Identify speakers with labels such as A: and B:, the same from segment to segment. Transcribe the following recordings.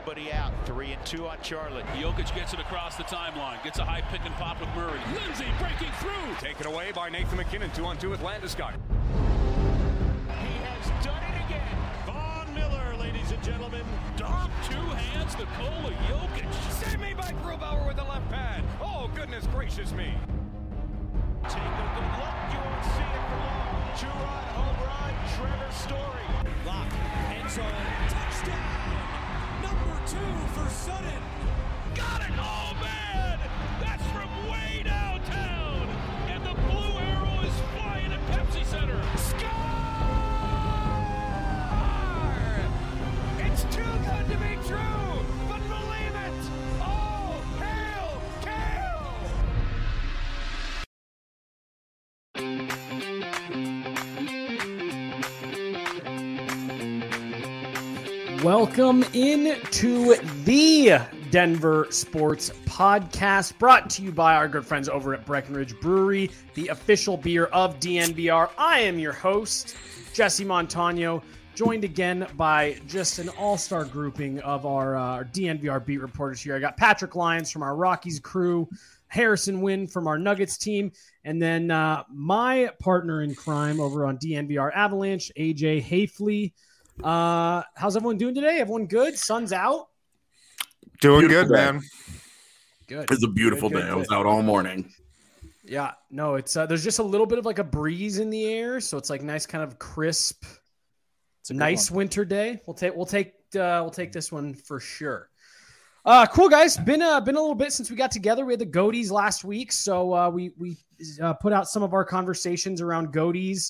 A: nobody out. 3-2 on Charlotte.
B: Jokic gets it across the timeline. Gets a high pick and pop with Murray. Lindsay breaking through.
C: Taken away by Nathan McKinnon. 2-on-2 with Landeskog.
A: He has done it again.
B: Von Miller, ladies and gentlemen. Dog, two hands, Nikola Jokic.
C: Saved me by Grubauer with the left pad. Oh, goodness gracious me.
A: Take a good look. You won't see it for long. Two-run home run. Trevor Story.
D: Lock. End zone. Touchdown. Number 2 for Sutton.
B: Got it! Oh, man! That's from way downtown! And the blue arrow is flying at Pepsi Center.
A: Score! It's too good to be true, but believe it! Oh, hail,
E: Welcome into the Denver Sports Podcast, brought to you by our good friends over at Breckenridge Brewery, the official beer of DNVR. I am your host, Jesse Montano, joined again by just an all-star grouping of our DNVR beat reporters here. I got Patrick Lyons from our Rockies crew, Harrison Wynn from our Nuggets team, and then my partner in crime over on DNVR Avalanche, AJ Hafley. How's everyone doing today? Everyone good? Sun's out?
F: Doing
G: Beautiful
F: good,
G: day.
F: man.
E: Good.
G: It's a beautiful day. I was out all morning.
E: Yeah, no, it's there's just a little bit of like a breeze in the air, so it's like nice, kind of crisp. It's a nice winter day. We'll take this one for sure. Cool guys. Been a little bit since we got together. We had the Goaties last week, so we put out some of our conversations around Goaties.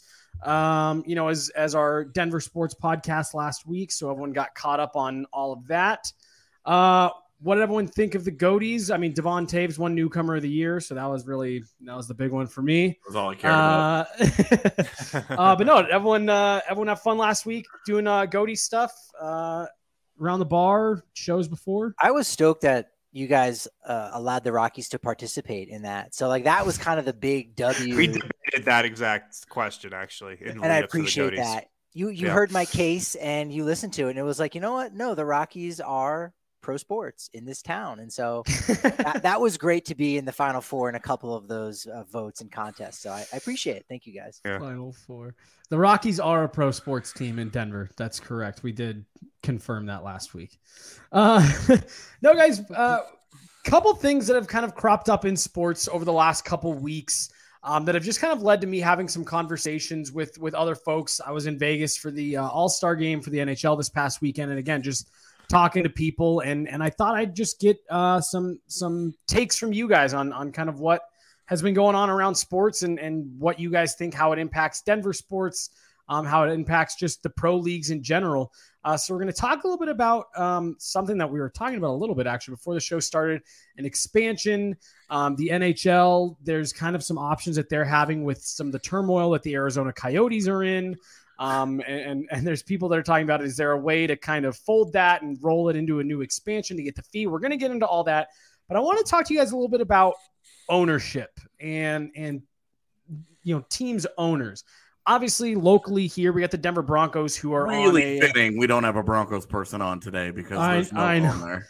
E: As our Denver Sports Podcast last week, so everyone got caught up on all of that. What did everyone think of the Goaties? I mean, Devon Taves won Newcomer of the Year, so that was the big one for me.
G: That's all I cared about.
E: But no, everyone have fun last week doing Goaties stuff around the bar, shows before.
H: I was stoked that you guys allowed the Rockies to participate in that. So like that was kind of the big W.
F: We debated that exact question actually.
H: And I appreciate that. You heard my case and you listened to it and it was like, you know what? No, the Rockies are pro sports in this town. And so that was great to be in the Final Four in a couple of those votes and contests. So I appreciate it. Thank you guys.
F: Yeah.
E: Final Four. The Rockies are a pro sports team in Denver. That's correct. We did confirm that last week. No, guys, couple things that have kind of cropped up in sports over the last couple weeks that have just kind of led to me having some conversations with other folks. I was in Vegas for the All-Star game for the NHL this past weekend. And again, just talking to people. And I thought I'd just get some takes from you guys on kind of what has been going on around sports and what you guys think, how it impacts Denver sports, how it impacts just the pro leagues in general. So we're going to talk a little bit about something that we were talking about a little bit actually before the show started, an expansion. The NHL, there's kind of some options that they're having with some of the turmoil that the Arizona Coyotes are in. And there's people that are talking about, is there a way to kind of fold that and roll it into a new expansion to get the fee? We're going to get into all that, but I want to talk to you guys a little bit about ownership and teams owners. Obviously, locally here, we got the Denver Broncos who are
G: really fitting. We don't have a Broncos person on today because there's no on there.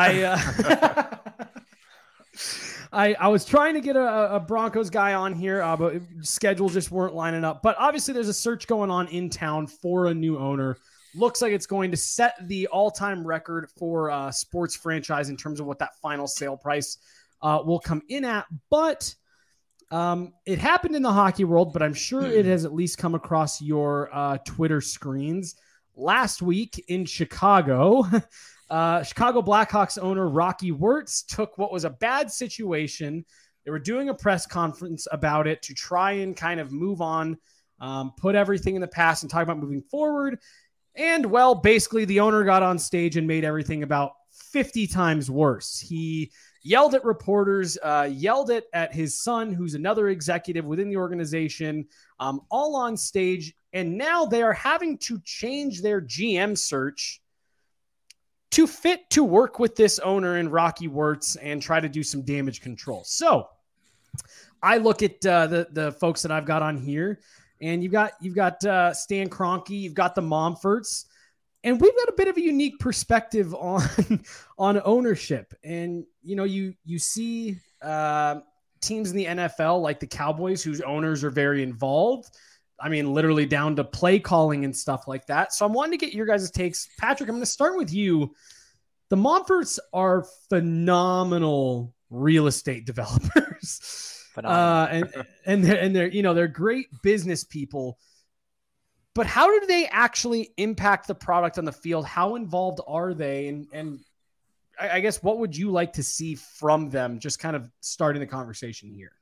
E: I was trying to get a Broncos guy on here, but schedules just weren't lining up. But obviously, there's a search going on in town for a new owner. Looks like it's going to set the all-time record for a sports franchise in terms of what that final sale price will come in at. But it happened in the hockey world, but I'm sure it has at least come across your Twitter screens. Last week in Chicago, Chicago Blackhawks owner Rocky Wirtz took what was a bad situation. They were doing a press conference about it to try and kind of move on, put everything in the past and talk about moving forward. And, well, basically the owner got on stage and made everything about 50 times worse. He yelled at reporters, yelled at his son, who's another executive within the organization, all on stage. And now they are having to change their GM search to fit to work with this owner in Rocky Wirtz and try to do some damage control. So I look at the folks that I've got on here, and you've got Stan Kroenke, you've got the Momforts. And we've got a bit of a unique perspective on ownership. And, you see teams in the NFL like the Cowboys, whose owners are very involved. I mean, literally down to play calling and stuff like that. So I'm wanting to get your guys' takes. Patrick, I'm going to start with you. The Monforts are phenomenal real estate developers. And they're great business people. But how do they actually impact the product on the field? How involved are they? And I guess what would you like to see from them? Just kind of starting the conversation here.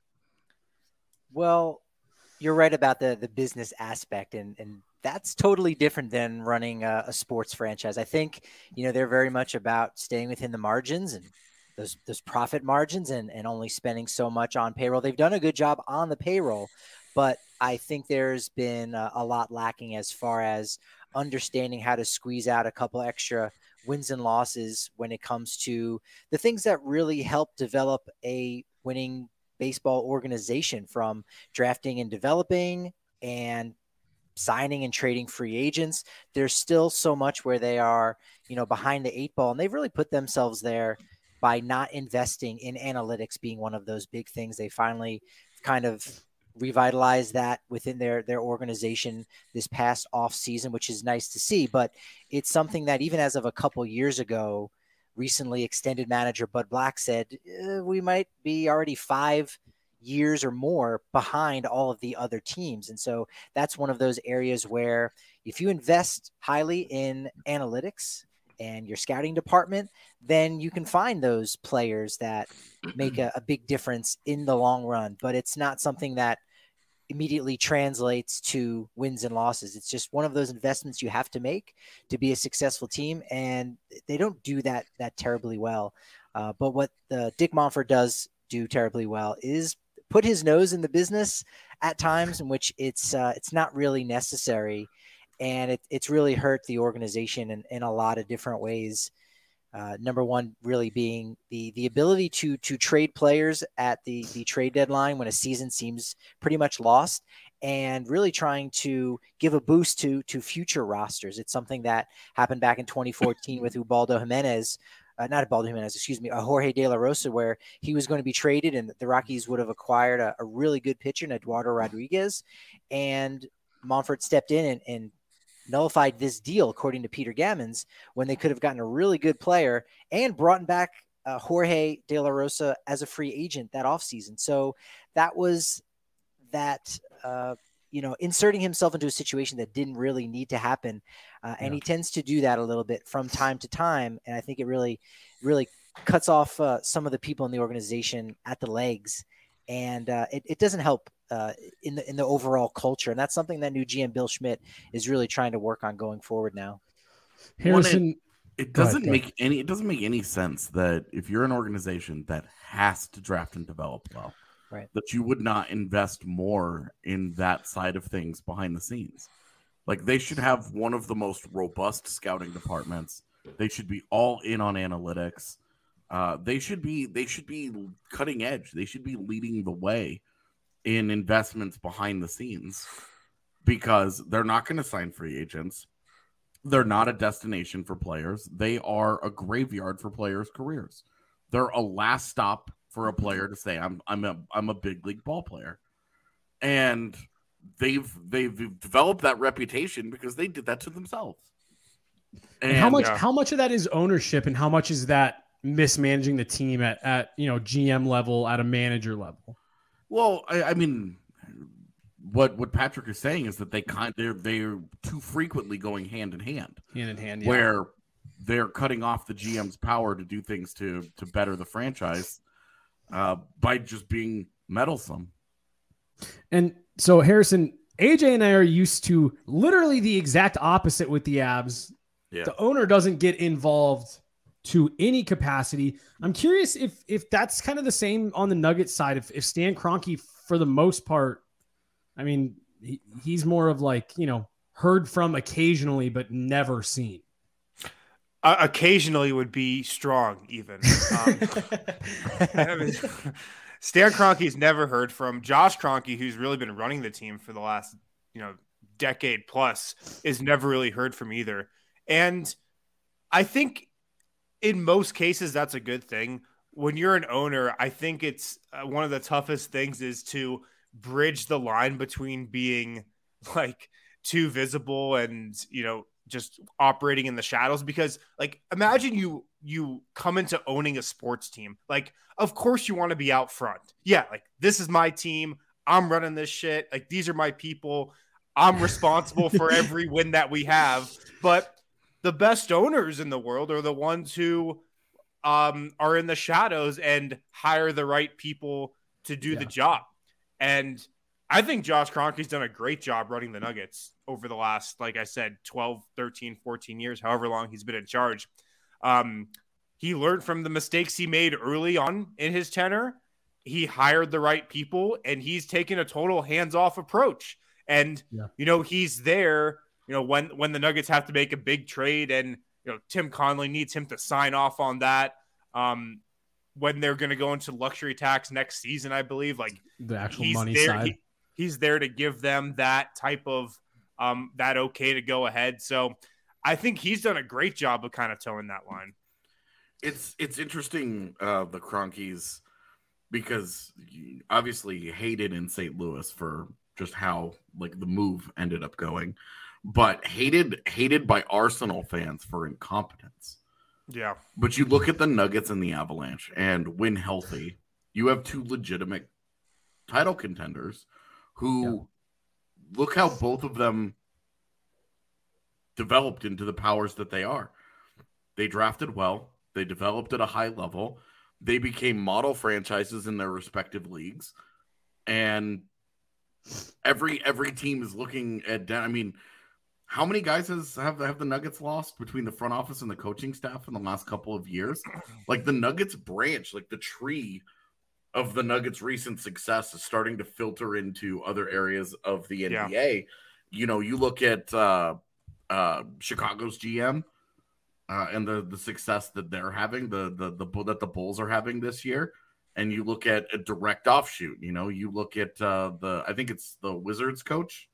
H: Well, you're right about the business aspect, and that's totally different than running a sports franchise. I think, they're very much about staying within the margins and those profit margins and only spending so much on payroll. They've done a good job on the payroll, but I think there's been a lot lacking as far as understanding how to squeeze out a couple extra wins and losses when it comes to the things that really help develop a winning baseball organization, from drafting and developing and signing and trading free agents. There's still so much where they are, behind the eight ball, and they've really put themselves there by not investing in analytics being one of those big things. They finally kind of revitalize that within their organization this past off season, which is nice to see. But it's something that even as of a couple years ago, recently extended manager Bud Black said, we might be already 5 years or more behind all of the other teams. And so that's one of those areas where if you invest highly in analytics and your scouting department, then you can find those players that make a big difference in the long run. But it's not something that immediately translates to wins and losses. It's just one of those investments you have to make to be a successful team, and they don't do that terribly well. But what Dick Monfort does do terribly well is put his nose in the business at times in which it's not really necessary, and it's really hurt the organization in a lot of different ways. Number one, really being the ability to trade players at the trade deadline when a season seems pretty much lost, and really trying to give a boost to future rosters. It's something that happened back in 2014 with Jorge De La Rosa, where he was going to be traded and the Rockies would have acquired a really good pitcher in Eduardo Rodriguez, and Monfort stepped in and nullified this deal, according to Peter Gammons, when they could have gotten a really good player and brought back Jorge De La Rosa as a free agent that offseason. So that was inserting himself into a situation that didn't really need to happen. And he tends to do that a little bit from time to time. And I think it really, really cuts off some of the people in the organization at the legs. And it doesn't help in the overall culture. And that's something that new GM Bill Schmidt is really trying to work on going forward now.
E: Harrison,
G: it doesn't make any sense that if you're an organization that has to draft and develop well,
H: right,
G: that you would not invest more in that side of things behind the scenes. Like, they should have one of the most robust scouting departments. They should be all in on analytics. They should be cutting edge. They should be leading the way in investments behind the scenes, because they're not going to sign free agents. They're not a destination for players. They are a graveyard for players' careers. They're a last stop for a player to say, I'm a big league ball player. And they've developed that reputation because they did that to themselves.
E: And how much of that is ownership, and how much is that mismanaging the team at GM level, at a manager level?
G: Well, I mean, what Patrick is saying is that they're too frequently going hand in hand.
E: Yeah.
G: Where they're cutting off the GM's power to do things to better the franchise by just being meddlesome.
E: And so, Harrison, AJ and I are used to literally the exact opposite with the Abs.
G: Yeah.
E: The owner doesn't get involved to any capacity. I'm curious if that's kind of the same on the Nuggets side. If Stan Kroenke, for the most part, I mean, he's more of like, heard from occasionally, but never seen.
F: Occasionally would be strong, even. Stan Kroenke's never heard from. Josh Kroenke, who's really been running the team for the last, decade plus, is never really heard from either. And I think in most cases, that's a good thing. When you're an owner, I think it's one of the toughest things is to bridge the line between being like too visible and, just operating in the shadows. Because like, imagine you come into owning a sports team. Like, of course you want to be out front. Yeah. Like, this is my team. I'm running this shit. Like, these are my people. I'm responsible for every win that we have. But the best owners in the world are the ones who are in the shadows and hire the right people to do the job. And I think Josh Kroenke's done a great job running the Nuggets over the last, like I said, 12, 13, 14 years, however long he's been in charge. He learned from the mistakes he made early on in his tenure. He hired the right people, and he's taken a total hands-off approach. And, he's there, when the Nuggets have to make a big trade and, Tim Connelly needs him to sign off on that. When they're going to go into luxury tax next season, I believe, like
E: the actual money side.
F: He's there to give them that type of that okay to go ahead. So I think he's done a great job of kind of towing that line.
G: It's interesting, the Kroenkes, because obviously you hated in St. Louis for just how like the move ended up going, but hated by Arsenal fans for incompetence.
F: Yeah.
G: But you look at the Nuggets and the Avalanche, and when healthy, you have two legitimate title contenders who look how both of them developed into the powers that they are. They drafted well. They developed at a high level. They became model franchises in their respective leagues. And every team is looking at, I mean, how many guys have the Nuggets lost between the front office and the coaching staff in the last couple of years? Like the Nuggets branch, like the tree of the Nuggets' recent success is starting to filter into other areas of the NBA. You look at Chicago's GM and the success that they're having, that the Bulls are having this year, and you look at a direct offshoot. You look at I think it's the Wizards coach.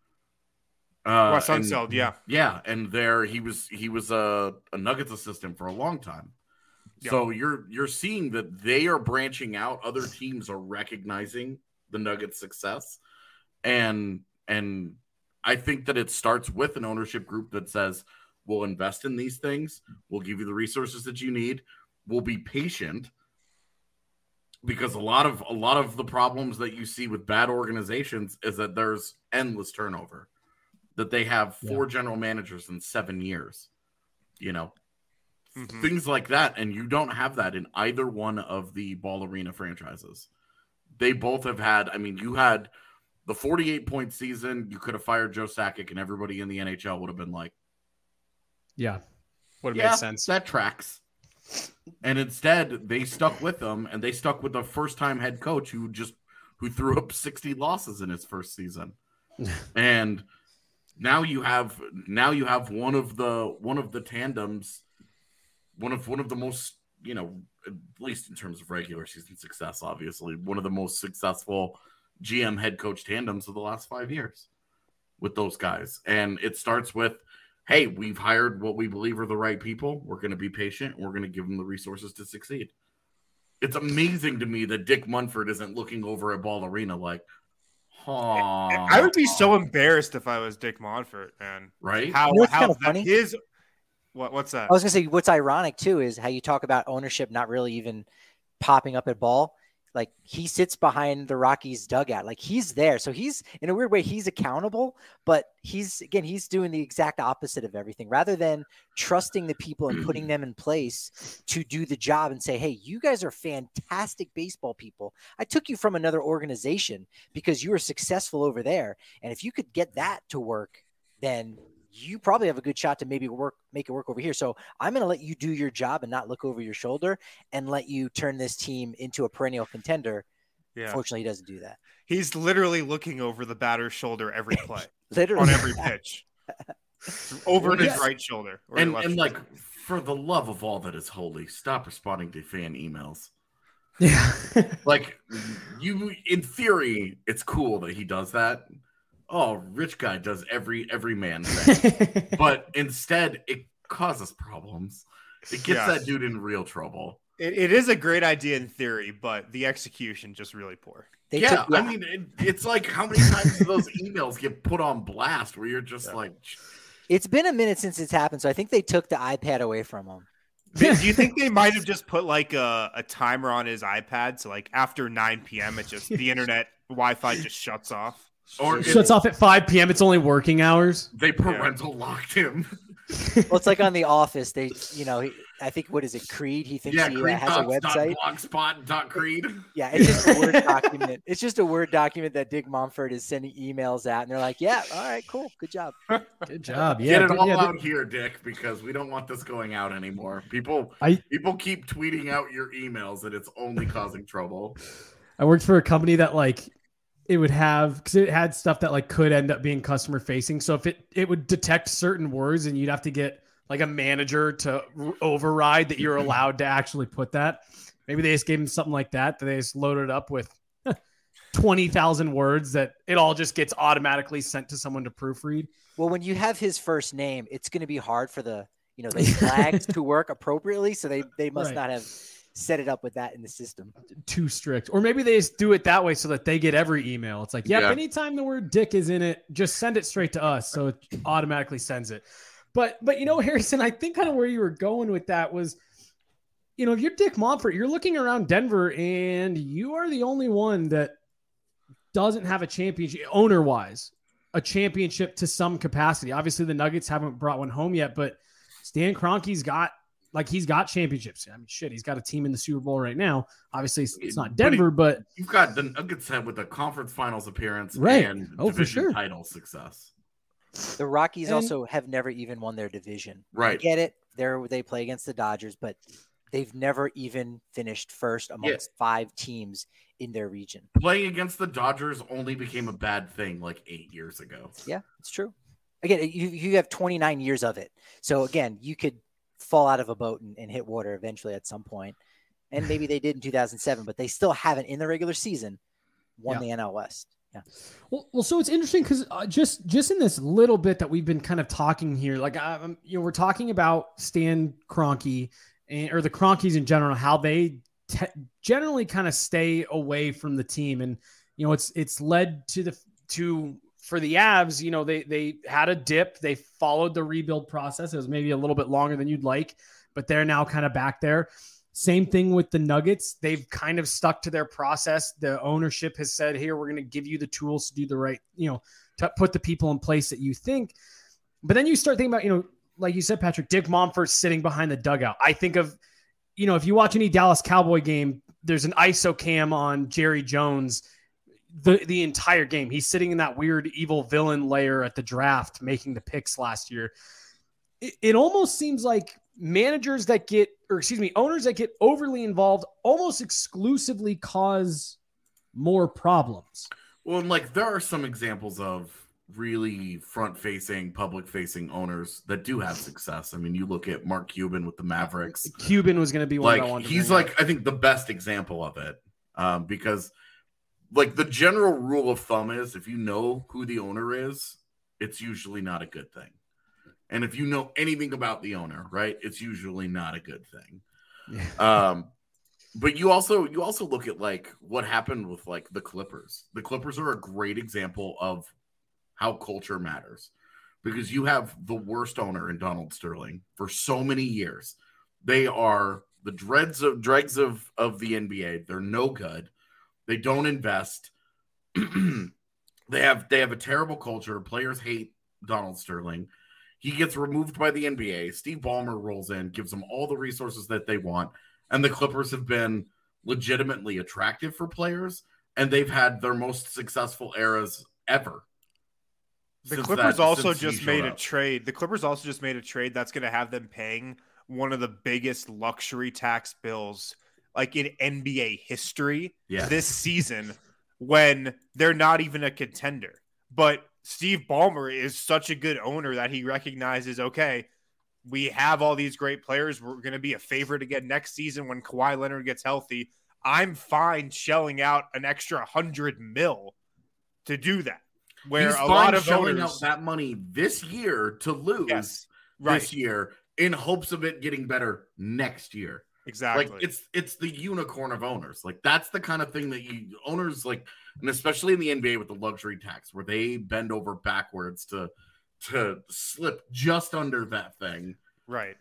F: Wes Unseld,
G: yeah, and there he was a Nuggets assistant for a long time. Yeah. So you're seeing that they are branching out. Other teams are recognizing the Nuggets' success, and I think that it starts with an ownership group that says, "We'll invest in these things. We'll give you the resources that you need. We'll be patient." Because a lot of the problems that you see with bad organizations is that there's endless turnover. That they have 4 general managers in 7 years, things like that. And you don't have that in either one of the Ball Arena franchises. They both have had, you had the 48-point season. You could have fired Joe Sakic and everybody in the NHL would have been like,
E: would have made sense.
G: That tracks. And instead they stuck with them, and they stuck with the first-time head coach who threw up 60 losses in his first season. And Now you have one of the tandems, one of the most, at least in terms of regular season success, obviously, one of the most successful GM head coach tandems of the last 5 years with those guys. And it starts with, hey, we've hired what we believe are the right people. We're going to be patient. We're going to give them the resources to succeed. It's amazing to me that Dick Munford isn't looking over at Ball Arena like,
F: I would be so embarrassed if I was Dick Monfort, man.
G: Right?
H: What's kind of funny?
F: What's that?
H: I was gonna say what's ironic too is how you talk about ownership not really even popping up at Ball. Like he sits behind the Rockies dugout, like he's there. So he's in a weird way, he's accountable, but he's doing the exact opposite of everything rather than trusting the people and putting them in place to do the job and say, hey, you guys are fantastic baseball people. I took you from another organization because you were successful over there. And if you could get that to work, then you probably have a good shot to maybe make it work over here. So I'm going to let you do your job and not look over your shoulder and let you turn this team into a perennial contender. Yeah. Fortunately, he doesn't do that.
F: He's literally looking over the batter's shoulder every play,
H: literally
F: on every pitch, over his right shoulder.
G: And like, for the love of all that is holy, stop responding to fan emails.
E: Yeah.
G: Like, in theory, it's cool that he does that. oh, rich guy does every man thing. But instead, it causes problems. It gets that dude in real trouble.
F: It is a great idea in theory, but the execution just really poor.
G: I mean, it's like how many times do those emails get put on blast where you're just like...
H: It's been a minute since it's happened, so I think they took the iPad away from him.
F: Do you think they might have just put like a timer on his iPad? So like after 9 p.m., it just the internet Wi-Fi just shuts off.
E: Or it shuts off at 5 p.m. It's only working hours.
G: They parental locked him.
H: Well, it's like on The Office. They, I think, what is it, Creed? He thinks he
G: Creed
H: has a website.
G: Blogspot.creed.
H: Yeah, it's just a Word document. It's just a Word document that Dick Mumford is sending emails at, and they're like, "Yeah, all right, cool, good job,
E: good job." Yeah,
G: get it all out here, Dick, because we don't want this going out anymore. People keep tweeting out your emails, and it's only causing trouble.
E: I worked for a company that it would have, because it had stuff that could end up being customer facing. So if it would detect certain words, and you'd have to get a manager to override that you're allowed to actually put that. Maybe they just gave them something like that they just loaded up with 20,000 words that it all just gets automatically sent to someone to proofread.
H: Well, when you have his first name, it's going to be hard for the flags to work appropriately. So they must not have set it up with that in the system.
E: Too strict. Or maybe they just do it that way so that they get every email. It's like, anytime the word dick is in it, just send it straight to us. So it automatically sends it. But Harrison, I think kind of where you were going with that was, if you're Dick Monfort, you're looking around Denver and you are the only one that doesn't have a championship, owner-wise, a championship to some capacity. Obviously, the Nuggets haven't brought one home yet, but Stan Kroenke's got championships. I mean, shit, he's got a team in the Super Bowl right now. Obviously, it's not Denver, but
G: you've got the Nuggets with a conference finals appearance and division title success.
H: The Rockies also have never even won their division.
G: Right.
H: I get it. They play against the Dodgers, but they've never even finished first amongst 5 teams in their region.
G: Playing against the Dodgers only became a bad thing 8 years ago.
H: Yeah, it's true. Again, you have 29 years of it. So again, you could fall out of a boat and hit water eventually at some point. And maybe they did in 2007, but they still haven't in the regular season won the NL West. Yeah.
E: Well, so it's interesting because just in this little bit that we've been kind of talking here, we're talking about Stan Kroenke or the Kroenkes in general, how they generally kind of stay away from the team, and it's led to for the Avs. They had a dip, they followed the rebuild process. It was maybe a little bit longer than you'd like, but they're now kind of back there. Same thing with the Nuggets. They've kind of stuck to their process. The ownership has said, here, we're going to give you the tools to do the right, to put the people in place that you think. But then you start thinking about, like you said, Patrick, Dick Monfort sitting behind the dugout. I think of, if you watch any Dallas Cowboy game, there's an ISO cam on Jerry Jones the entire game. He's sitting in that weird evil villain layer at the draft, making the picks last year. It almost seems like owners that get overly involved almost exclusively cause more problems.
G: Well, there are some examples of really front-facing, public-facing owners that do have success. I mean, you look at Mark Cuban with the Mavericks.
E: Cuban was going to be one I wanted to
G: he's I think the best example of it, because the general rule of thumb is if you know who the owner is, it's usually not a good thing. And if you know anything about the owner, right, it's usually not a good thing. Yeah. But you also look at what happened with the Clippers. The Clippers are a great example of how culture matters, because you have the worst owner in Donald Sterling for so many years. They are the dregs of the NBA. They're no good. They don't invest. They have a terrible culture. Players hate Donald Sterling. He gets removed by the NBA. Steve Ballmer rolls in, gives them all the resources that they want. And the Clippers have been legitimately attractive for players. And they've had their most successful eras ever.
F: The Clippers also just made a trade. The Clippers also just made a trade that's going to have them paying one of the biggest luxury tax bills in NBA history this season, when they're not even a contender. But Steve Ballmer is such a good owner that he recognizes, okay, we have all these great players. We're going to be a favorite again next season when Kawhi Leonard gets healthy. I'm fine shelling out an extra $100 million to do that. where
G: He's
F: a
G: fine
F: lot of
G: shelling
F: owners
G: out that money this year to lose this year in hopes of it getting better next year.
F: Exactly.
G: Like it's the unicorn of owners. Like that's the kind of thing that owners like, and especially in the NBA with the luxury tax where they bend over backwards to slip just under that thing.
F: Right.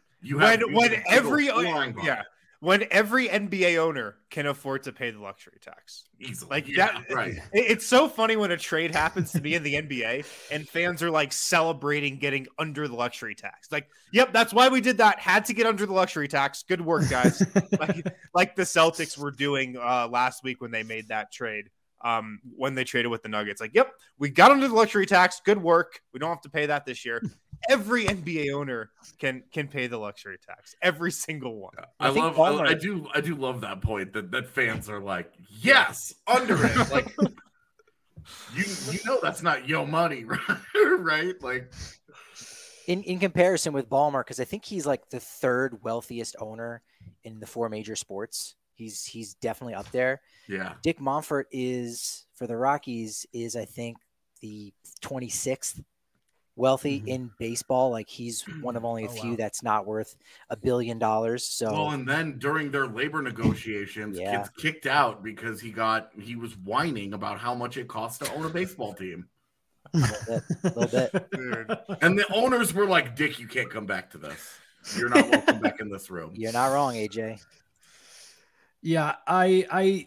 F: When every NBA owner can afford to pay the luxury tax.
G: Easily.
F: Like
G: that,
F: that,
G: right.
F: It's so funny when a trade happens to be in the NBA and fans are like celebrating getting under the luxury tax. Like, yep, that's why we did that. Had to get under the luxury tax. Good work, guys. like the Celtics were doing last week when they made that trade. When they traded with the Nuggets. Like, yep, we got under the luxury tax. Good work. We don't have to pay that this year. Every NBA owner can pay the luxury tax. Every single one.
G: I do love that point that fans are like, yes, under it. Like you know that's not your money, right? Like
H: in comparison with Ballmer, because I think he's like the third wealthiest owner in the 4 major sports. He's definitely up there.
G: Yeah.
H: Dick Monfort is for the Rockies is I think the 26th wealthy in baseball. Like he's one of only a few that's not worth $1 billion. So
G: well, and then during their labor negotiations, kids kicked out because he was whining about how much it costs to own a baseball team.
H: A little bit.
F: Dude.
G: And the owners were like, Dick, you can't come back to this. You're not welcome back in this room.
H: You're not wrong, AJ.
E: Yeah, I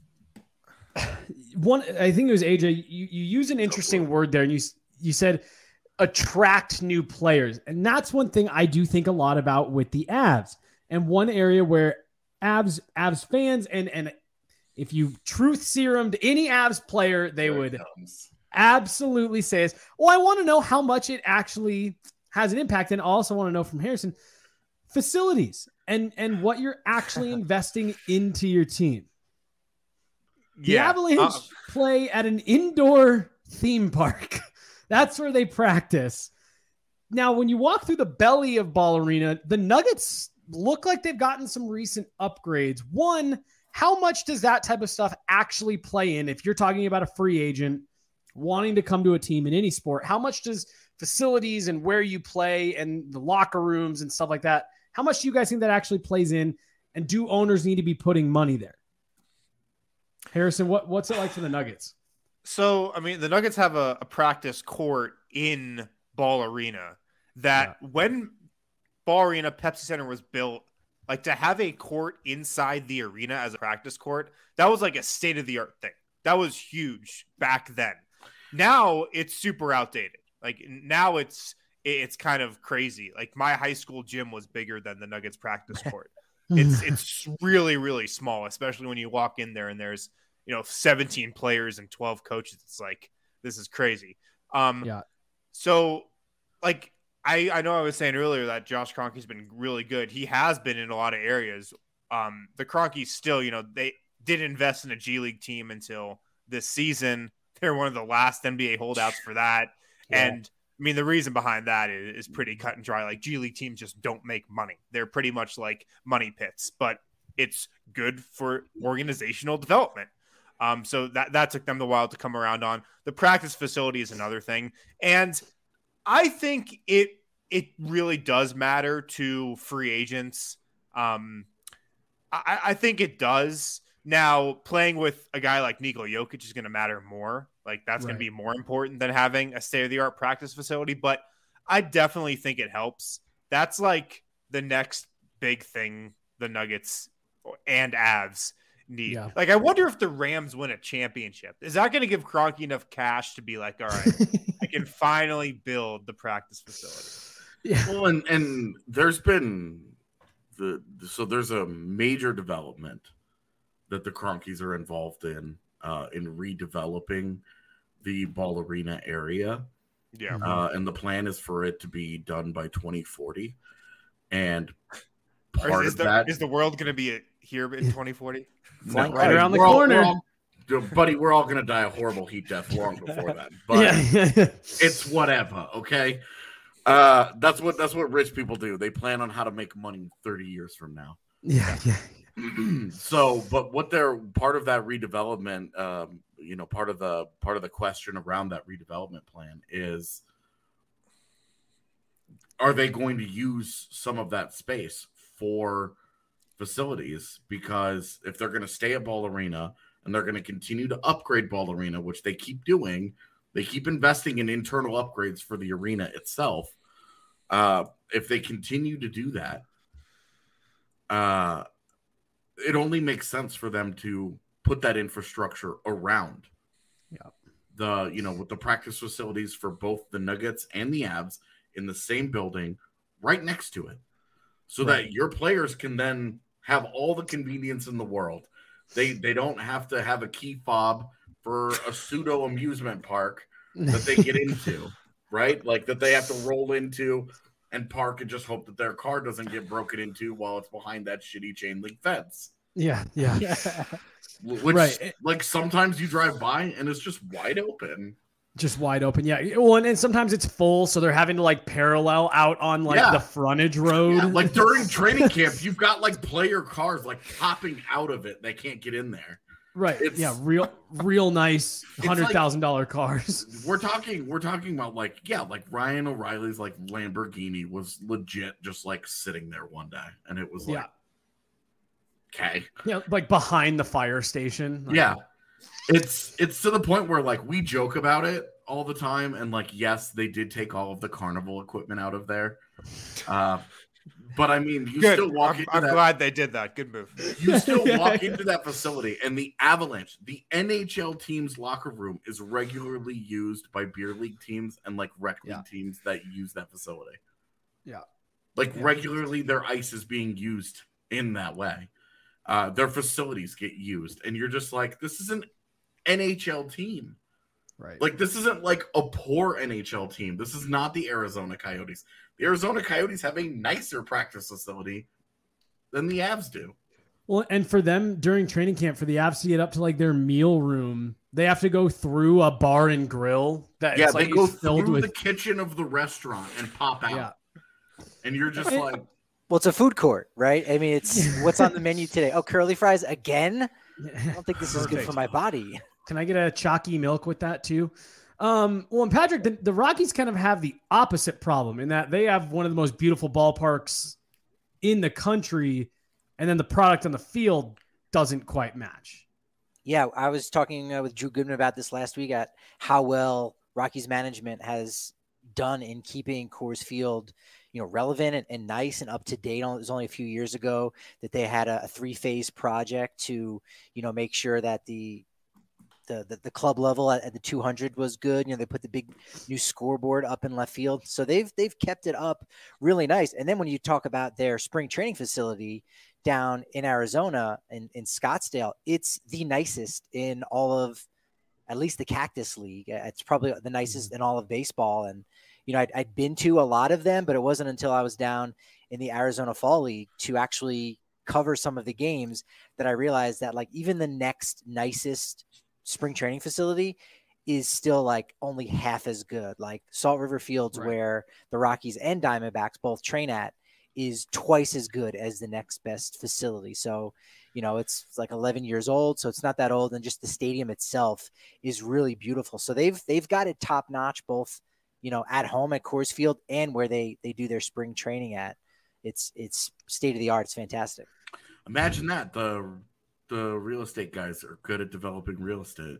E: think it was AJ. You use an interesting word there, and you said attract new players, and that's one thing I do think a lot about with the Avs. And one area where Avs fans and if you truth serumed any Avs player, they would absolutely say is, well, I want to know how much it actually has an impact, and also want to know from Harrison facilities and what you're actually investing into your team. The Avalanche play at an indoor theme park. That's where they practice. Now, when you walk through the belly of Ball Arena, the Nuggets look like they've gotten some recent upgrades. One, how much does that type of stuff actually play in? If you're talking about a free agent wanting to come to a team in any sport, how much does facilities and where you play and the locker rooms and stuff like that, how much do you guys think that actually plays in? And do owners need to be putting money there? Harrison, what's it like for the Nuggets?
F: So, I mean, the Nuggets have a practice court in Ball Arena that when Ball Arena, Pepsi Center was built, like to have a court inside the arena as a practice court, that was like a state-of-the-art thing. That was huge back then. Now it's super outdated. Like now it's kind of crazy. Like my high school gym was bigger than the Nuggets practice court. It's really, really small, especially when you walk in there and there's, 17 players and 12 coaches. It's like, this is crazy. So like, I know I was saying earlier that Josh Kroenke's been really good. He has been in a lot of areas. The Kroenkes still, they did invest in a G League team until this season. They're one of the last NBA holdouts for that. Yeah. And I mean, the reason behind that is pretty cut and dry. Like G League teams just don't make money. They're pretty much like money pits, but it's good for organizational development. So that took them a while to come around on. The practice facility is another thing. And I think it really does matter to free agents. I think it does. Now, playing with a guy like Nikola Jokic is going to matter more. Like, that's going to be more important than having a state-of-the-art practice facility. But I definitely think it helps. That's, like, the next big thing the Nuggets and Avs need. Yeah. Like, I wonder if the Rams win a championship. Is that going to give Kroenke enough cash to be like, all right, I can finally build the practice facility?
G: Yeah. Well, and there's been there's a major development that the Kroenkes are involved in redeveloping the Ball Arena area.
F: Yeah.
G: And the plan is for it to be done by 2040. And part of that
F: is the world going to be here in 2040?
E: Right around the corner.
G: We're all going to die a horrible heat death long before that. But it's whatever, okay? That's what rich people do. They plan on how to make money 30 years from now.
E: Yeah.
G: So, but what they're part of that redevelopment part of the question around that redevelopment plan is, are they going to use some of that space for facilities? Because if they're going to stay at Ball Arena and they're going to continue to upgrade Ball Arena, which they keep doing, they keep investing in internal upgrades for the arena itself. If they continue to do that, it only makes sense for them to put that infrastructure around with the practice facilities for both the Nuggets and the Avs in the same building right next to it, so that your players can then have all the convenience in the world. They don't have to have a key fob for a pseudo amusement park that they get into, right? Like that they have to roll into and park and just hope that their car doesn't get broken into while it's behind that shitty chain link fence.
E: Yeah.
G: Which, like, sometimes you drive by and it's just wide open.
E: Just wide open, yeah. Well, and sometimes it's full, so they're having to like parallel out on like the frontage road.
G: Yeah, like during training camp, you've got like player cars like popping out of it. They can't get in there.
E: Right. Real nice $100,000 cars.
G: We're talking about like Ryan O'Reilly's like Lamborghini was legit just like sitting there one day, and it was like, okay,
E: like behind the fire station.
G: It's to the point where like we joke about it all the time, and like, yes, they did take all of the carnival equipment out of there. But I mean, you still walk into
F: I'm glad they did that. Good move.
G: You still walk into that facility, and the Avalanche, the NHL team's locker room is regularly used by beer league teams and like rec league teams that use that facility.
E: Yeah.
G: Regularly their ice is being used in that way. Their facilities get used, and you're just like, this is an NHL team.
E: Right.
G: Like, this isn't like a poor NHL team. This is not the Arizona Coyotes. The Arizona Coyotes have a nicer practice facility than the Avs do.
E: Well, and for them during training camp, for the Avs to get up to like their meal room, they have to go through a bar and grill. They
G: go through the kitchen of the restaurant and pop out. Yeah. And you're just like,
H: well, it's a food court, right? I mean, it's what's on the menu today. Oh, curly fries again? I don't think this is good for my body.
E: Can I get a chalky milk with that too? Well, and Patrick, the Rockies kind of have the opposite problem in that they have one of the most beautiful ballparks in the country, and then the product on the field doesn't quite match.
H: Yeah, I was talking with Drew Goodman about this last week at how well Rockies management has done in keeping Coors Field, relevant and nice and up to date. It was only a few years ago that they had a 3-phase project to, make sure that the club level at the 200 was good. They put the big new scoreboard up in left field. So they've kept it up really nice. And then when you talk about their spring training facility down in Arizona in Scottsdale, it's the nicest in all of, at least the Cactus League. It's probably the nicest in all of baseball. And, I'd been to a lot of them, but it wasn't until I was down in the Arizona Fall League to actually cover some of the games that I realized that like even the next nicest spring training facility is still like only half as good. Like Salt River Fields, where the Rockies and Diamondbacks both train at, is twice as good as the next best facility. So, it's like 11 years old, so it's not that old. And just the stadium itself is really beautiful. So they've got it top notch, both, at home at Coors Field and where they do their spring training at. It's state of the art. It's fantastic.
G: Imagine that. The real estate guys are good at developing real estate.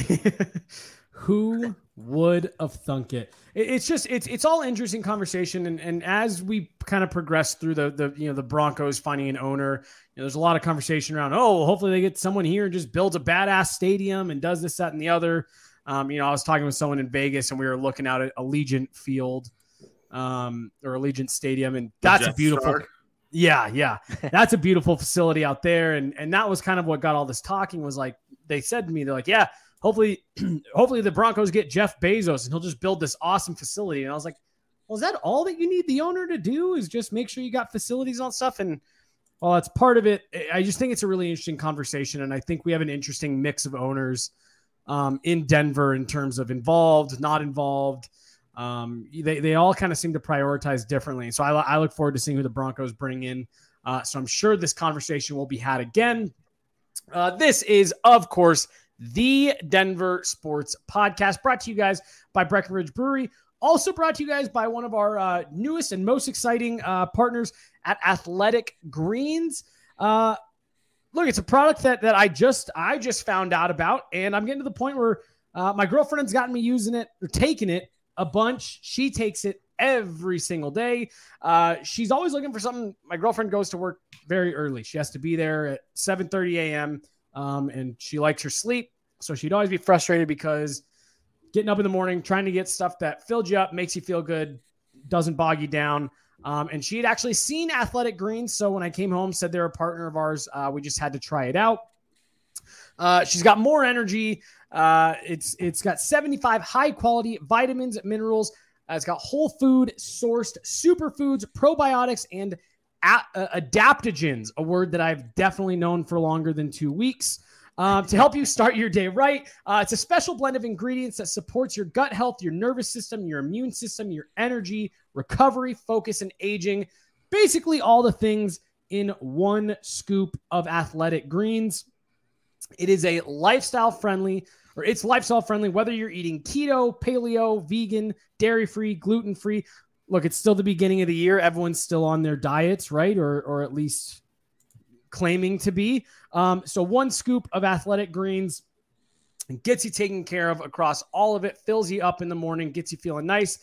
E: Who would have thunk it? It's all interesting conversation. And as we kind of progress through the Broncos finding an owner, there's a lot of conversation around, hopefully they get someone here and just builds a badass stadium and does this, that, and the other. I was talking with someone in Vegas and we were looking out at Allegiant Field or Allegiant Stadium. And that's a beautiful, Yeah. That's a beautiful facility out there. And that was kind of what got all this talking, was like, they said to me, they're like, yeah, hopefully the Broncos get Jeff Bezos and he'll just build this awesome facility. And I was like, well, is that all that you need the owner to do, is just make sure you got facilities on stuff? And while that's part of it, I just think it's a really interesting conversation. And I think we have an interesting mix of owners in Denver in terms of involved, not involved. They all kind of seem to prioritize differently. So I look forward to seeing who the Broncos bring in. So I'm sure this conversation will be had again. This is, of course, the Denver Sports Podcast, brought to you guys by Breckenridge Brewery. Also brought to you guys by one of our newest and most exciting partners at Athletic Greens. Look, it's a product that I just found out about, and I'm getting to the point where my girlfriend's gotten me using it or taking it a bunch. She takes it every single day. She's always looking for something. My girlfriend goes to work very early. She has to be there at 7:30 a.m. And she likes her sleep. So she'd always be frustrated because getting up in the morning, trying to get stuff that fills you up, makes you feel good, doesn't bog you down. And she had actually seen Athletic Greens. So when I came home, said they're a partner of ours. We just had to try it out. She's got more energy. It's got 75 high quality vitamins, minerals. It's got whole food sourced superfoods, probiotics, and adaptogens, a word that I've definitely known for longer than 2 weeks, to help you start your day right. It's a special blend of ingredients that supports your gut health, your nervous system, your immune system, your energy, recovery, focus, and aging. Basically all the things in one scoop of Athletic Greens. It is a lifestyle friendly, whether you're eating keto, paleo, vegan, dairy-free, gluten-free. Look, it's still the beginning of the year. Everyone's still on their diets, right? Or at least claiming to be. So one scoop of Athletic Greens gets you taken care of across all of it, fills you up in the morning, gets you feeling nice.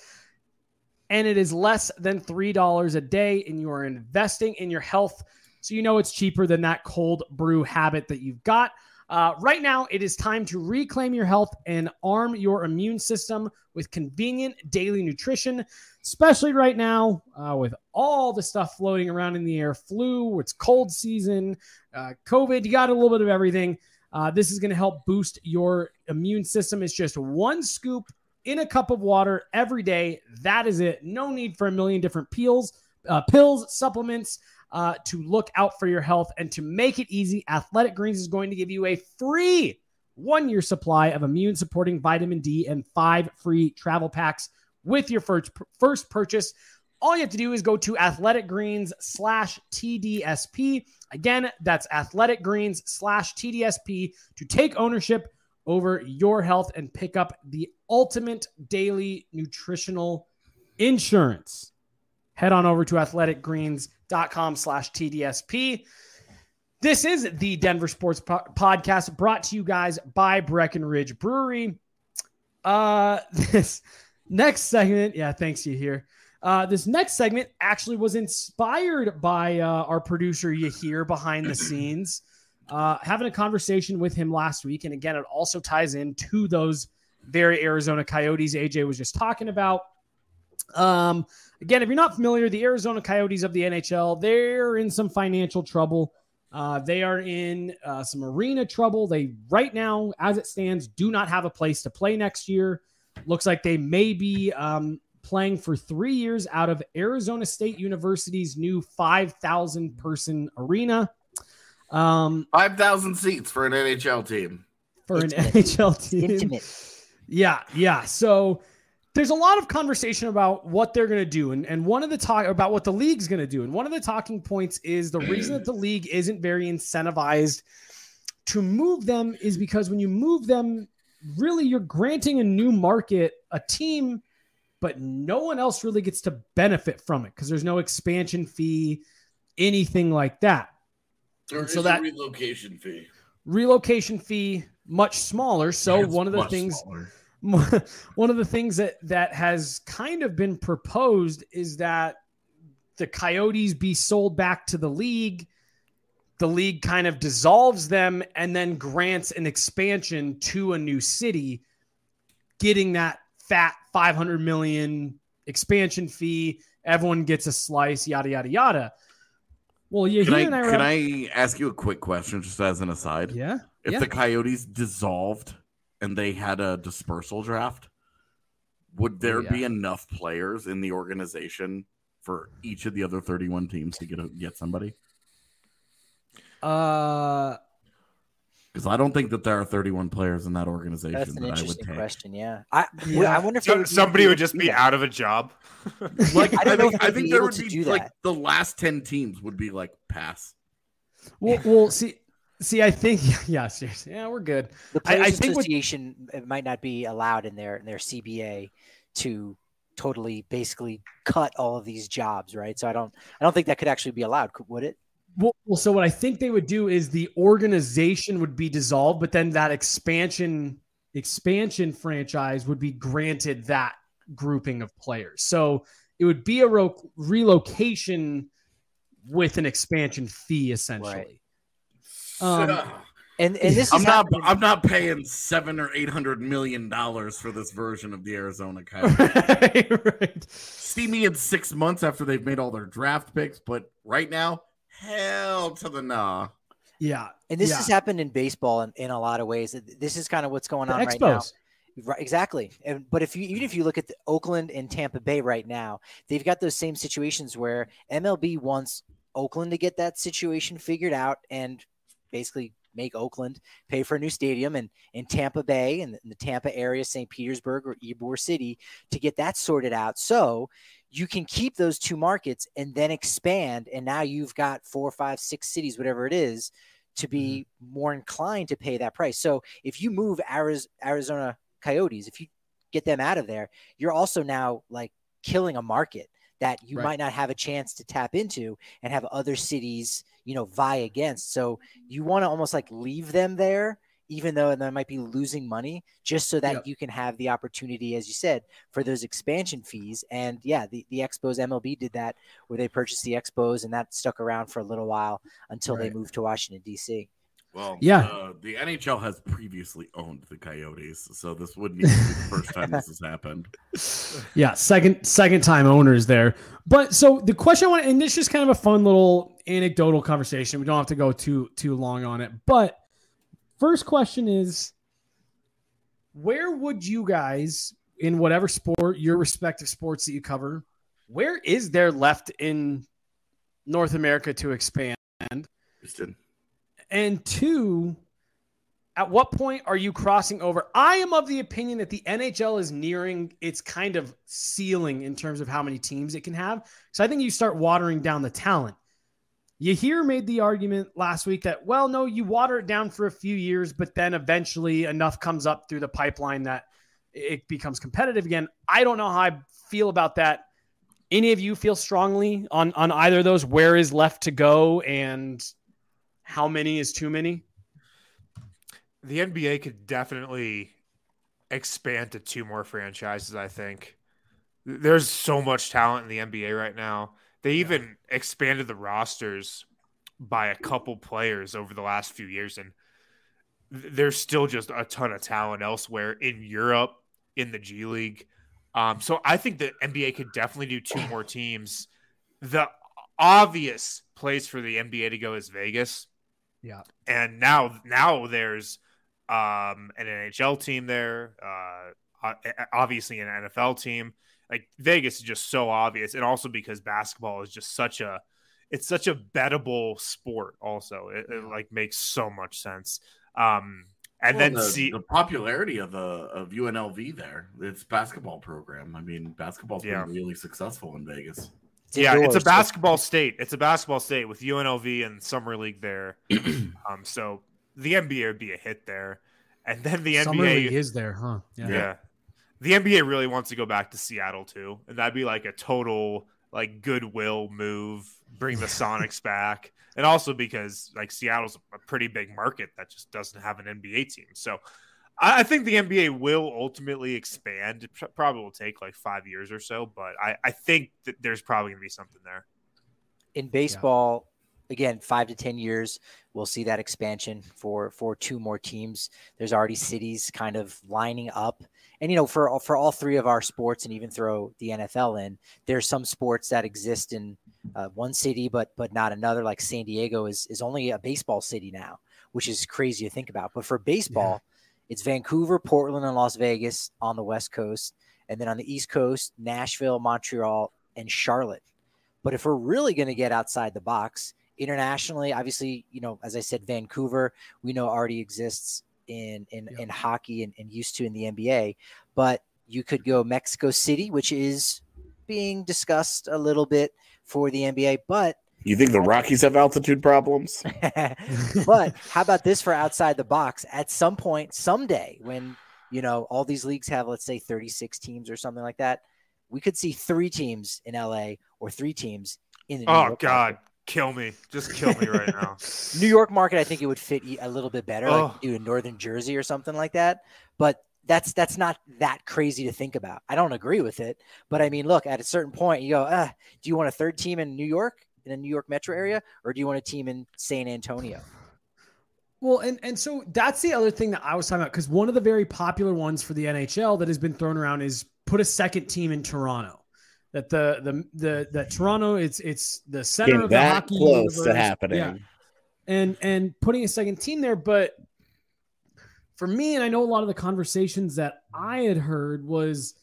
E: And it is less than $3 a day, and you are investing in your health. So you know it's cheaper than that cold brew habit that you've got. Right now, it is time to reclaim your health and arm your immune system with convenient daily nutrition, especially right now with all the stuff floating around in the air, flu, it's cold season, COVID, you got a little bit of everything. This is going to help boost your immune system. It's just one scoop in a cup of water every day. That is it. No need for a million different pills, supplements, to look out for your health. And to make it easy, Athletic Greens is going to give you a free 1-year supply of immune supporting vitamin D and 5 free travel packs with your first purchase. All you have to do is go to athleticgreens/TDSP. Again, that's athleticgreens/TDSP to take ownership over your health and pick up the ultimate daily nutritional insurance. Head on over to athleticgreens.com/TDSP. This is the Denver Sports Podcast, brought to you guys by Breckenridge Brewery. This next segment, thanks you here. This next segment actually was inspired by our producer Yahir behind the scenes, having a conversation with him last week. And again, it also ties into those very Arizona Coyotes AJ was just talking about. Again, if you're not familiar, the Arizona Coyotes of the NHL, they're in some financial trouble. They are in some arena trouble. They, right now, as it stands, do not have a place to play next year. Looks like they may be playing for 3 years out of Arizona State University's new 5,000 person arena.
G: 5,000 seats for an NHL team.
E: NHL team.
H: Intimate.
E: Yeah. So there's a lot of conversation about what they're going to do and one of the about what the league's going to do. And one of the talking points is the reason that the league isn't very incentivized to move them is because when you move them, really you're granting a new market, a team, but no one else really gets to benefit from it because there's no expansion fee, anything like that.
G: There is a relocation fee. Much smaller. So one of the things that has kind of been proposed is that the Coyotes be sold back to the league. The league kind of dissolves them and then grants an expansion to a new city, getting that fat $500 million expansion fee. Everyone gets a slice, yada, yada, yada. Well, can I ask you a quick question just as an aside?
E: Yeah.
G: If the Coyotes dissolved and they had a dispersal draft, would there be enough players in the organization for each of the other 31 teams to get somebody?
E: Because
G: I don't think that there are 31 players in that organization.
H: That's an interesting question. Yeah. I wonder if
F: somebody would just be out of a job.
G: Like I think there would be like the last 10 teams would be like pass.
E: Well, see, See, I think, yeah, seriously. Yeah, we're good.
H: The Players
E: I think
H: Association might not be allowed in their CBA to totally basically cut all of these jobs, right? So I don't think that could actually be allowed, would it?
E: Well, so what I think they would do is the organization would be dissolved, but then that expansion franchise would be granted that grouping of players. So it would be a relocation with an expansion fee, essentially.
H: Right. And this
G: I'm not paying $700 or $800 million for this version of the Arizona Coyotes.
E: Right.
G: See me in 6 months after they've made all their draft picks, but right now, hell to the nah.
E: Yeah.
H: And this has happened in baseball in a lot of ways. This is kind of what's going on right now. Right, exactly. But even if you look at Oakland and Tampa Bay right now, they've got those same situations where MLB wants Oakland to get that situation figured out and basically make Oakland pay for a new stadium, and in Tampa Bay and the Tampa area, St. Petersburg or Ybor City, to get that sorted out. So you can keep those two markets and then expand. And now you've got 4, 5, 6 cities, whatever it is, to be more inclined to pay that price. So if you move Arizona Coyotes, if you get them out of there, you're also now like killing a market that you might not have a chance to tap into and have other cities, vie against. So you want to almost like leave them there, even though they might be losing money, just so that you can have the opportunity, as you said, for those expansion fees. And the Expos, MLB did that, where they purchased the Expos, and that stuck around for a little while until they moved to Washington, D.C.
G: Well, the NHL has previously owned the Coyotes, so this wouldn't even be the first time this has happened.
E: Yeah, second time owners there. But so the question I want, and this is kind of a fun little anecdotal conversation. We don't have to go too long on it. But first question is, where would you guys, in whatever sport, your respective sports that you cover, where is there left in North America to expand?
G: Houston.
E: And 2, at what point are you crossing over? I am of the opinion that the NHL is nearing its kind of ceiling in terms of how many teams it can have. So I think you start watering down the talent. Yahir made the argument last week that, well, no, you water it down for a few years, but then eventually enough comes up through the pipeline that it becomes competitive again. I don't know how I feel about that. Any of you feel strongly on either of those? Where is left to go and how many is too many?
F: The NBA could definitely expand to 2 more franchises, I think. There's so much talent in the NBA right now. They even expanded the rosters by a couple players over the last few years, and there's still just a ton of talent elsewhere in Europe, in the G League. So I think the NBA could definitely do 2 more teams. The obvious place for the NBA to go is Vegas.
E: Yeah.
F: And now there's an NHL team there, obviously an NFL team. Like Vegas is just so obvious, and also because basketball is just such a bettable sport. Also, it like makes so much sense. And then
G: the popularity of UNLV there, its basketball program. I mean, basketball's been really successful in Vegas.
F: It's a basketball state. It's a basketball state with UNLV and Summer League there. So the NBA would be a hit there. And then the
E: Summer
F: NBA
E: League is there, huh?
F: Yeah. The NBA really wants to go back to Seattle too. And that'd be like a total like goodwill move, bring the Sonics back. And also because like Seattle's a pretty big market that just doesn't have an NBA team. So I think the NBA will ultimately expand. It probably will take like 5 years or so, but I think that there's probably going to be something there.
H: In baseball, again, 5 to 10 years, we'll see that expansion for 2 more teams. There's already cities kind of lining up. And, for all 3 of our sports, and even throw the NFL in, there's some sports that exist in one city, but not another. Like San Diego is only a baseball city now, which is crazy to think about. But for baseball, it's Vancouver, Portland, and Las Vegas on the West Coast. And then on the East Coast, Nashville, Montreal, and Charlotte. But if we're really going to get outside the box, internationally, obviously, as I said, Vancouver, we know already exists in hockey and used to in the NBA. But you could go Mexico City, which is being discussed a little bit for the NBA. But
G: You think the Rockies have altitude problems?
H: But how about this for outside the box? At some point, someday, when all these leagues have, let's say, 36 teams or something like that, we could see 3 teams in LA or 3 teams in the New York
F: God,
H: market.
F: kill me! Just kill me right now.
H: New York market, I think it would fit a little bit better,
F: Oh.
H: like do in Northern Jersey or something like that. But that's not that crazy to think about. I don't agree with it, but I mean, look, at a certain point, you go, do you want a 3rd team in New York, in the New York metro area, or do you want a team in San Antonio?
E: Well, and so that's the other thing that I was talking about, because one of the very popular ones for the NHL that has been thrown around is put a 2nd team in Toronto. That that Toronto, it's the center
G: Came
E: of the
G: that
E: hockey
G: close
E: universe.
G: to happening.
E: Yeah. And putting a 2nd team there, but for me, and I know a lot of the conversations that I had heard was,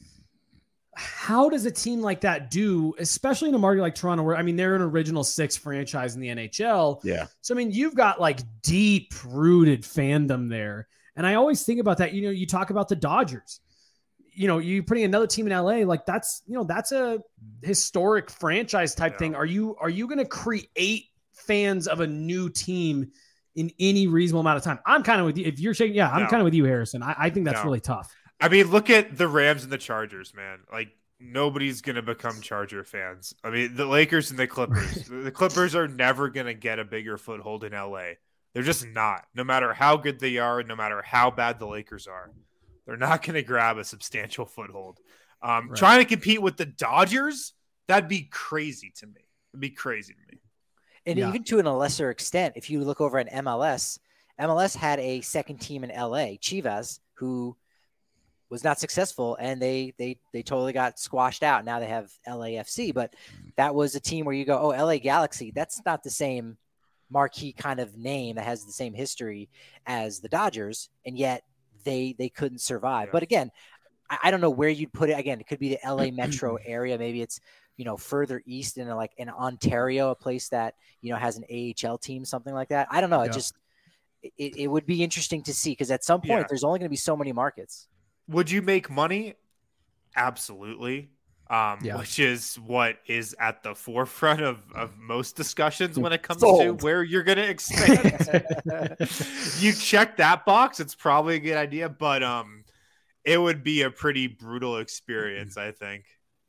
E: how does a team like that do, especially in a market like Toronto, where, I mean, they're an original 6 franchise in the NHL.
G: Yeah.
E: So, I mean, you've got like deep rooted fandom there. And I always think about that. You talk about the Dodgers, you putting another team in LA, like that's a historic franchise type thing. Are you going to create fans of a new team in any reasonable amount of time? I'm kind of with you. If you're saying, I'm kind of with you, Harrison. I think that's really tough.
F: I mean, look at the Rams and the Chargers, man. Like, nobody's going to become Charger fans. I mean, the Lakers and the Clippers. The Clippers are never going to get a bigger foothold in LA. They're just not. No matter how good they are, no matter how bad the Lakers are, they're not going to grab a substantial foothold. Trying to compete with the Dodgers, that'd be crazy to me. It'd be crazy to me.
H: And even to a lesser extent, if you look over at MLS had a 2nd team in LA, Chivas, who was not successful, and they totally got squashed out. Now they have LAFC, but that was a team where you go, oh, LA Galaxy, that's not the same marquee kind of name that has the same history as the Dodgers, and yet they couldn't survive. Yeah. But again, I don't know where you'd put it. Again, it could be the LA metro area. Maybe it's, further east in in Ontario, a place that, has an AHL team, something like that. I don't know. Yeah. It would be interesting to see, because at some point there's only going to be so many markets.
F: Would you make money? Absolutely. Which is what is at the forefront of most discussions when it comes to where you're going to expand. You check that box, it's probably a good idea, but it would be a pretty brutal experience, I think.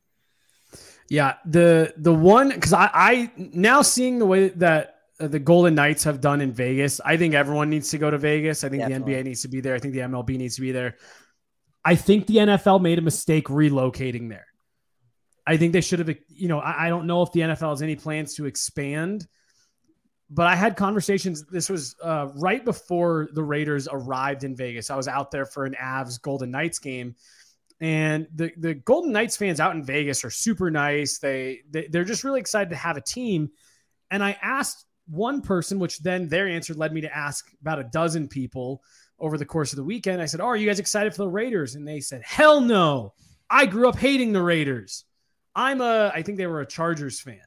E: Yeah, the one, because I now seeing the way that the Golden Knights have done in Vegas, I think everyone needs to go to Vegas. I think Definitely. The NBA needs to be there. I think the MLB needs to be there. I think the NFL made a mistake relocating there. I think they should have, I don't know if the NFL has any plans to expand, but I had conversations. This was right before the Raiders arrived in Vegas. I was out there for an Avs Golden Knights game, and the Golden Knights fans out in Vegas are super nice. They're just really excited to have a team. And I asked one person, which then their answer led me to ask about a dozen people over the course of the weekend. I said, are you guys excited for the Raiders? And they said, hell no. I grew up hating the Raiders. I think they were a Chargers fan.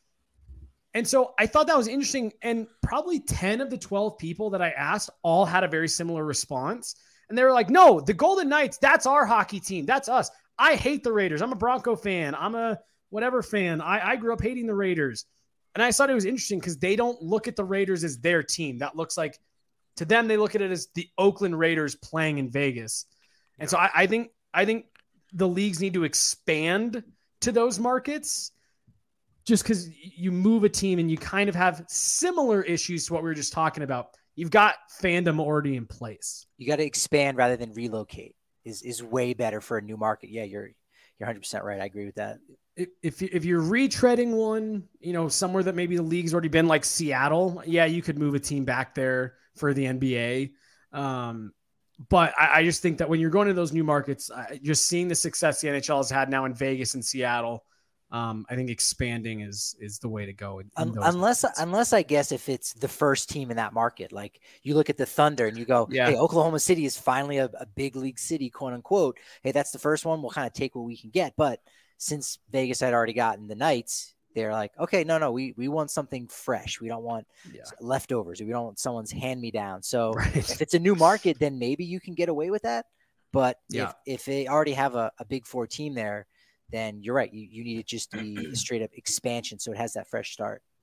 E: And so I thought that was interesting. And probably 10 of the 12 people that I asked all had a very similar response. And they were like, no, the Golden Knights, that's our hockey team. That's us. I hate the Raiders. I'm a Bronco fan. I'm a whatever fan. I grew up hating the Raiders. And I thought it was interesting because they don't look at the Raiders as their team. That looks like, to them, they look at it as the Oakland Raiders playing in Vegas. And so I think the leagues need to expand to those markets, just because you move a team and you kind of have similar issues to what we were just talking about. You've got fandom already in place.
H: You got to expand rather than relocate is way better for a new market. Yeah, you're 100% right. I agree with that.
E: If you're retreading one, somewhere that maybe the league's already been, like Seattle, you could move a team back there for the NBA. But I just think that when you're going to those new markets, just seeing the success the NHL has had now in Vegas and Seattle, I think expanding is the way to go.
H: Unless I guess if it's the first team in that market, like you look at the Thunder and you go, hey, Oklahoma City is finally a big league city, quote unquote. Hey, that's the first one. We'll kind of take what we can get. But since Vegas had already gotten the Knights, they're like, okay, no, we want something fresh. We don't want leftovers. We don't want someone's hand-me-down. So if it's a new market, then maybe you can get away with that. But if they already have a Big Four team there, then you're right. You need to just be straight up expansion, so it has that fresh start.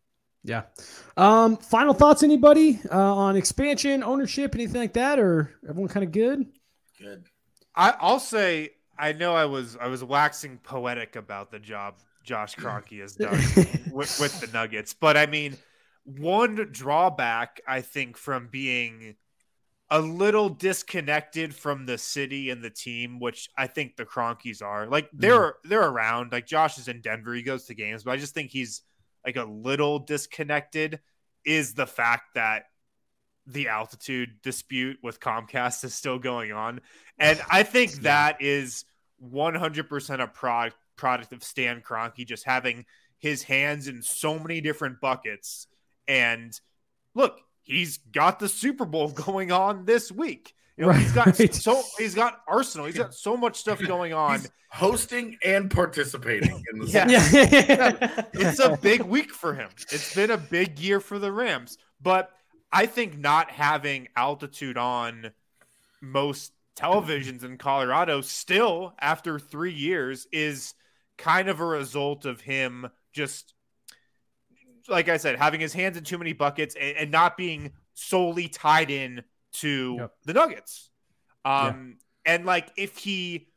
E: Yeah. Final thoughts, anybody, on expansion, ownership, anything like that, or everyone kind of good?
G: Good.
F: I'll say, I know I was waxing poetic about the job Josh Kroenke has done with the Nuggets, but I mean, one drawback I think from being a little disconnected from the city and the team, which I think the Kroenkes are, like they're around. Like Josh is in Denver, he goes to games, but I just think he's like a little disconnected, is the fact that the altitude dispute with Comcast is still going on. And I think that is 100% a product of Stan Kroenke just having his hands in so many different buckets. And look, he's got the Super Bowl going on this week. You know, he's got Arsenal. He's got so much stuff going on.
G: He's hosting and participating in the
F: It's a big week for him. It's been a big year for the Rams. But I think not having altitude on most televisions in Colorado still after 3 years is kind of a result of him just, like I said, having his hands in too many buckets and not being solely tied in to the Nuggets. And like, if he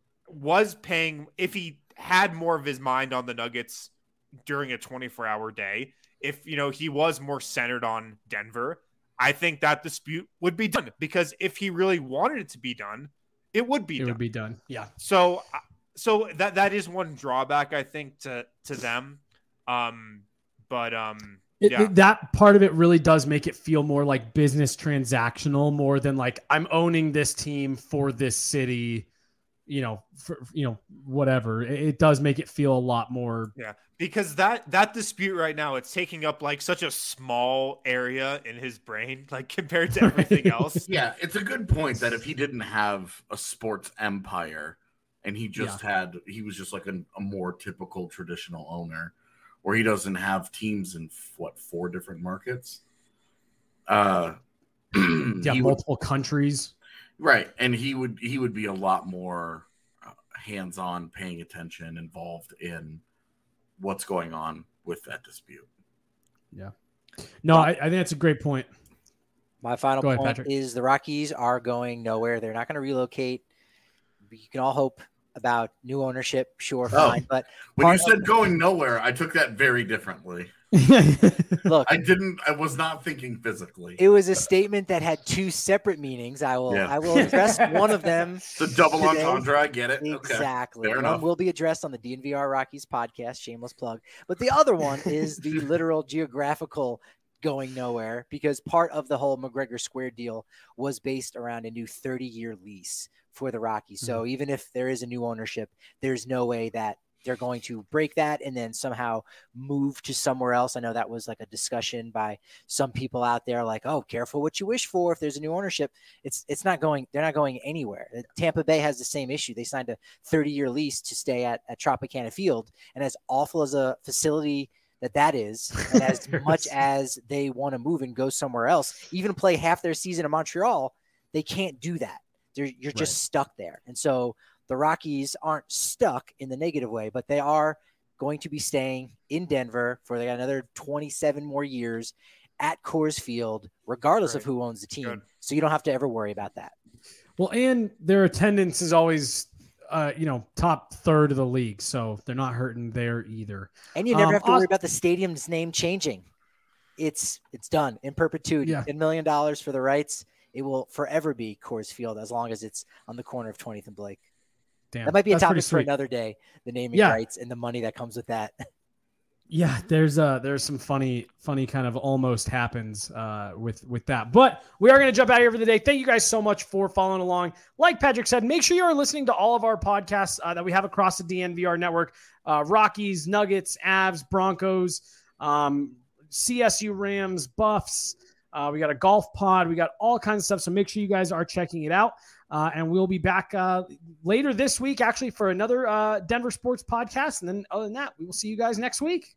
F: had more of his mind on the Nuggets during a 24-hour day, if, you know, he was more centered on Denver, I think that dispute would be done, because if he really wanted it to be done, it would be done. Yeah. So that is one drawback, I think, to them.
E: That part of it really does make it feel more like business transactional, more than like I'm owning this team for this city, whatever. It does make it feel a lot more.
F: Yeah, because that dispute right now, it's taking up like such a small area in his brain, like compared to everything else.
G: Yeah, it's a good point that if he didn't have a sports empire and he was just like a more typical traditional owner, where he doesn't have teams in 4 different markets.
E: Multiple countries.
G: Right. And he would be a lot more hands-on, paying attention, involved in what's going on with that dispute.
E: Yeah. No, I think that's a great point.
H: My final point is the Rockies are going nowhere. They're not going to relocate. You can all hope about new ownership, sure, fine. But
G: when you said going nowhere, I took that very differently.
H: Look,
G: I was not thinking physically.
H: It was a statement that had 2 separate meanings. I will address one of them.
G: The double entendre, I get it.
H: Exactly.
G: Okay.
H: One will be addressed on the DNVR Rockies podcast, shameless plug. But the other one is the literal geographical going nowhere, because part of the whole McGregor Square deal was based around a new 30-year lease for the Rockies. So even if there is a new ownership, there's no way that they're going to break that and then somehow move to somewhere else. I know that was like a discussion by some people out there, like, oh, careful what you wish for if there's a new ownership. It's not going, they're not going anywhere. Tampa Bay has the same issue. They signed a 30-year lease to stay at Tropicana Field. And as awful as a facility that is, and as much as they want to move and go somewhere else, even play half their season in Montreal, they can't do that. You're just stuck there. And so the Rockies aren't stuck in the negative way, but they are going to be staying in Denver for another 27 more years at Coors Field, regardless of who owns the team. Good. So you don't have to ever worry about that.
E: Well, and their attendance is always, top third of the league. So they're not hurting there either.
H: And you never have to worry about the stadium's name changing. It's done in perpetuity. $10 million for the rights. It will forever be Coors Field as long as it's on the corner of 20th and Blake.
E: Damn,
H: that might be a topic for another day, the naming rights and the money that comes with that.
E: Yeah, there's some funny kind of almost happens with that. But we are going to jump out of here for the day. Thank you guys so much for following along. Like Patrick said, make sure you are listening to all of our podcasts that we have across the DNVR network. Rockies, Nuggets, Avs, Broncos, CSU Rams, Buffs. We got a golf pod. We got all kinds of stuff. So make sure you guys are checking it out. And we'll be back later this week, actually, for another Denver Sports podcast. And then other than that, we will see you guys next week.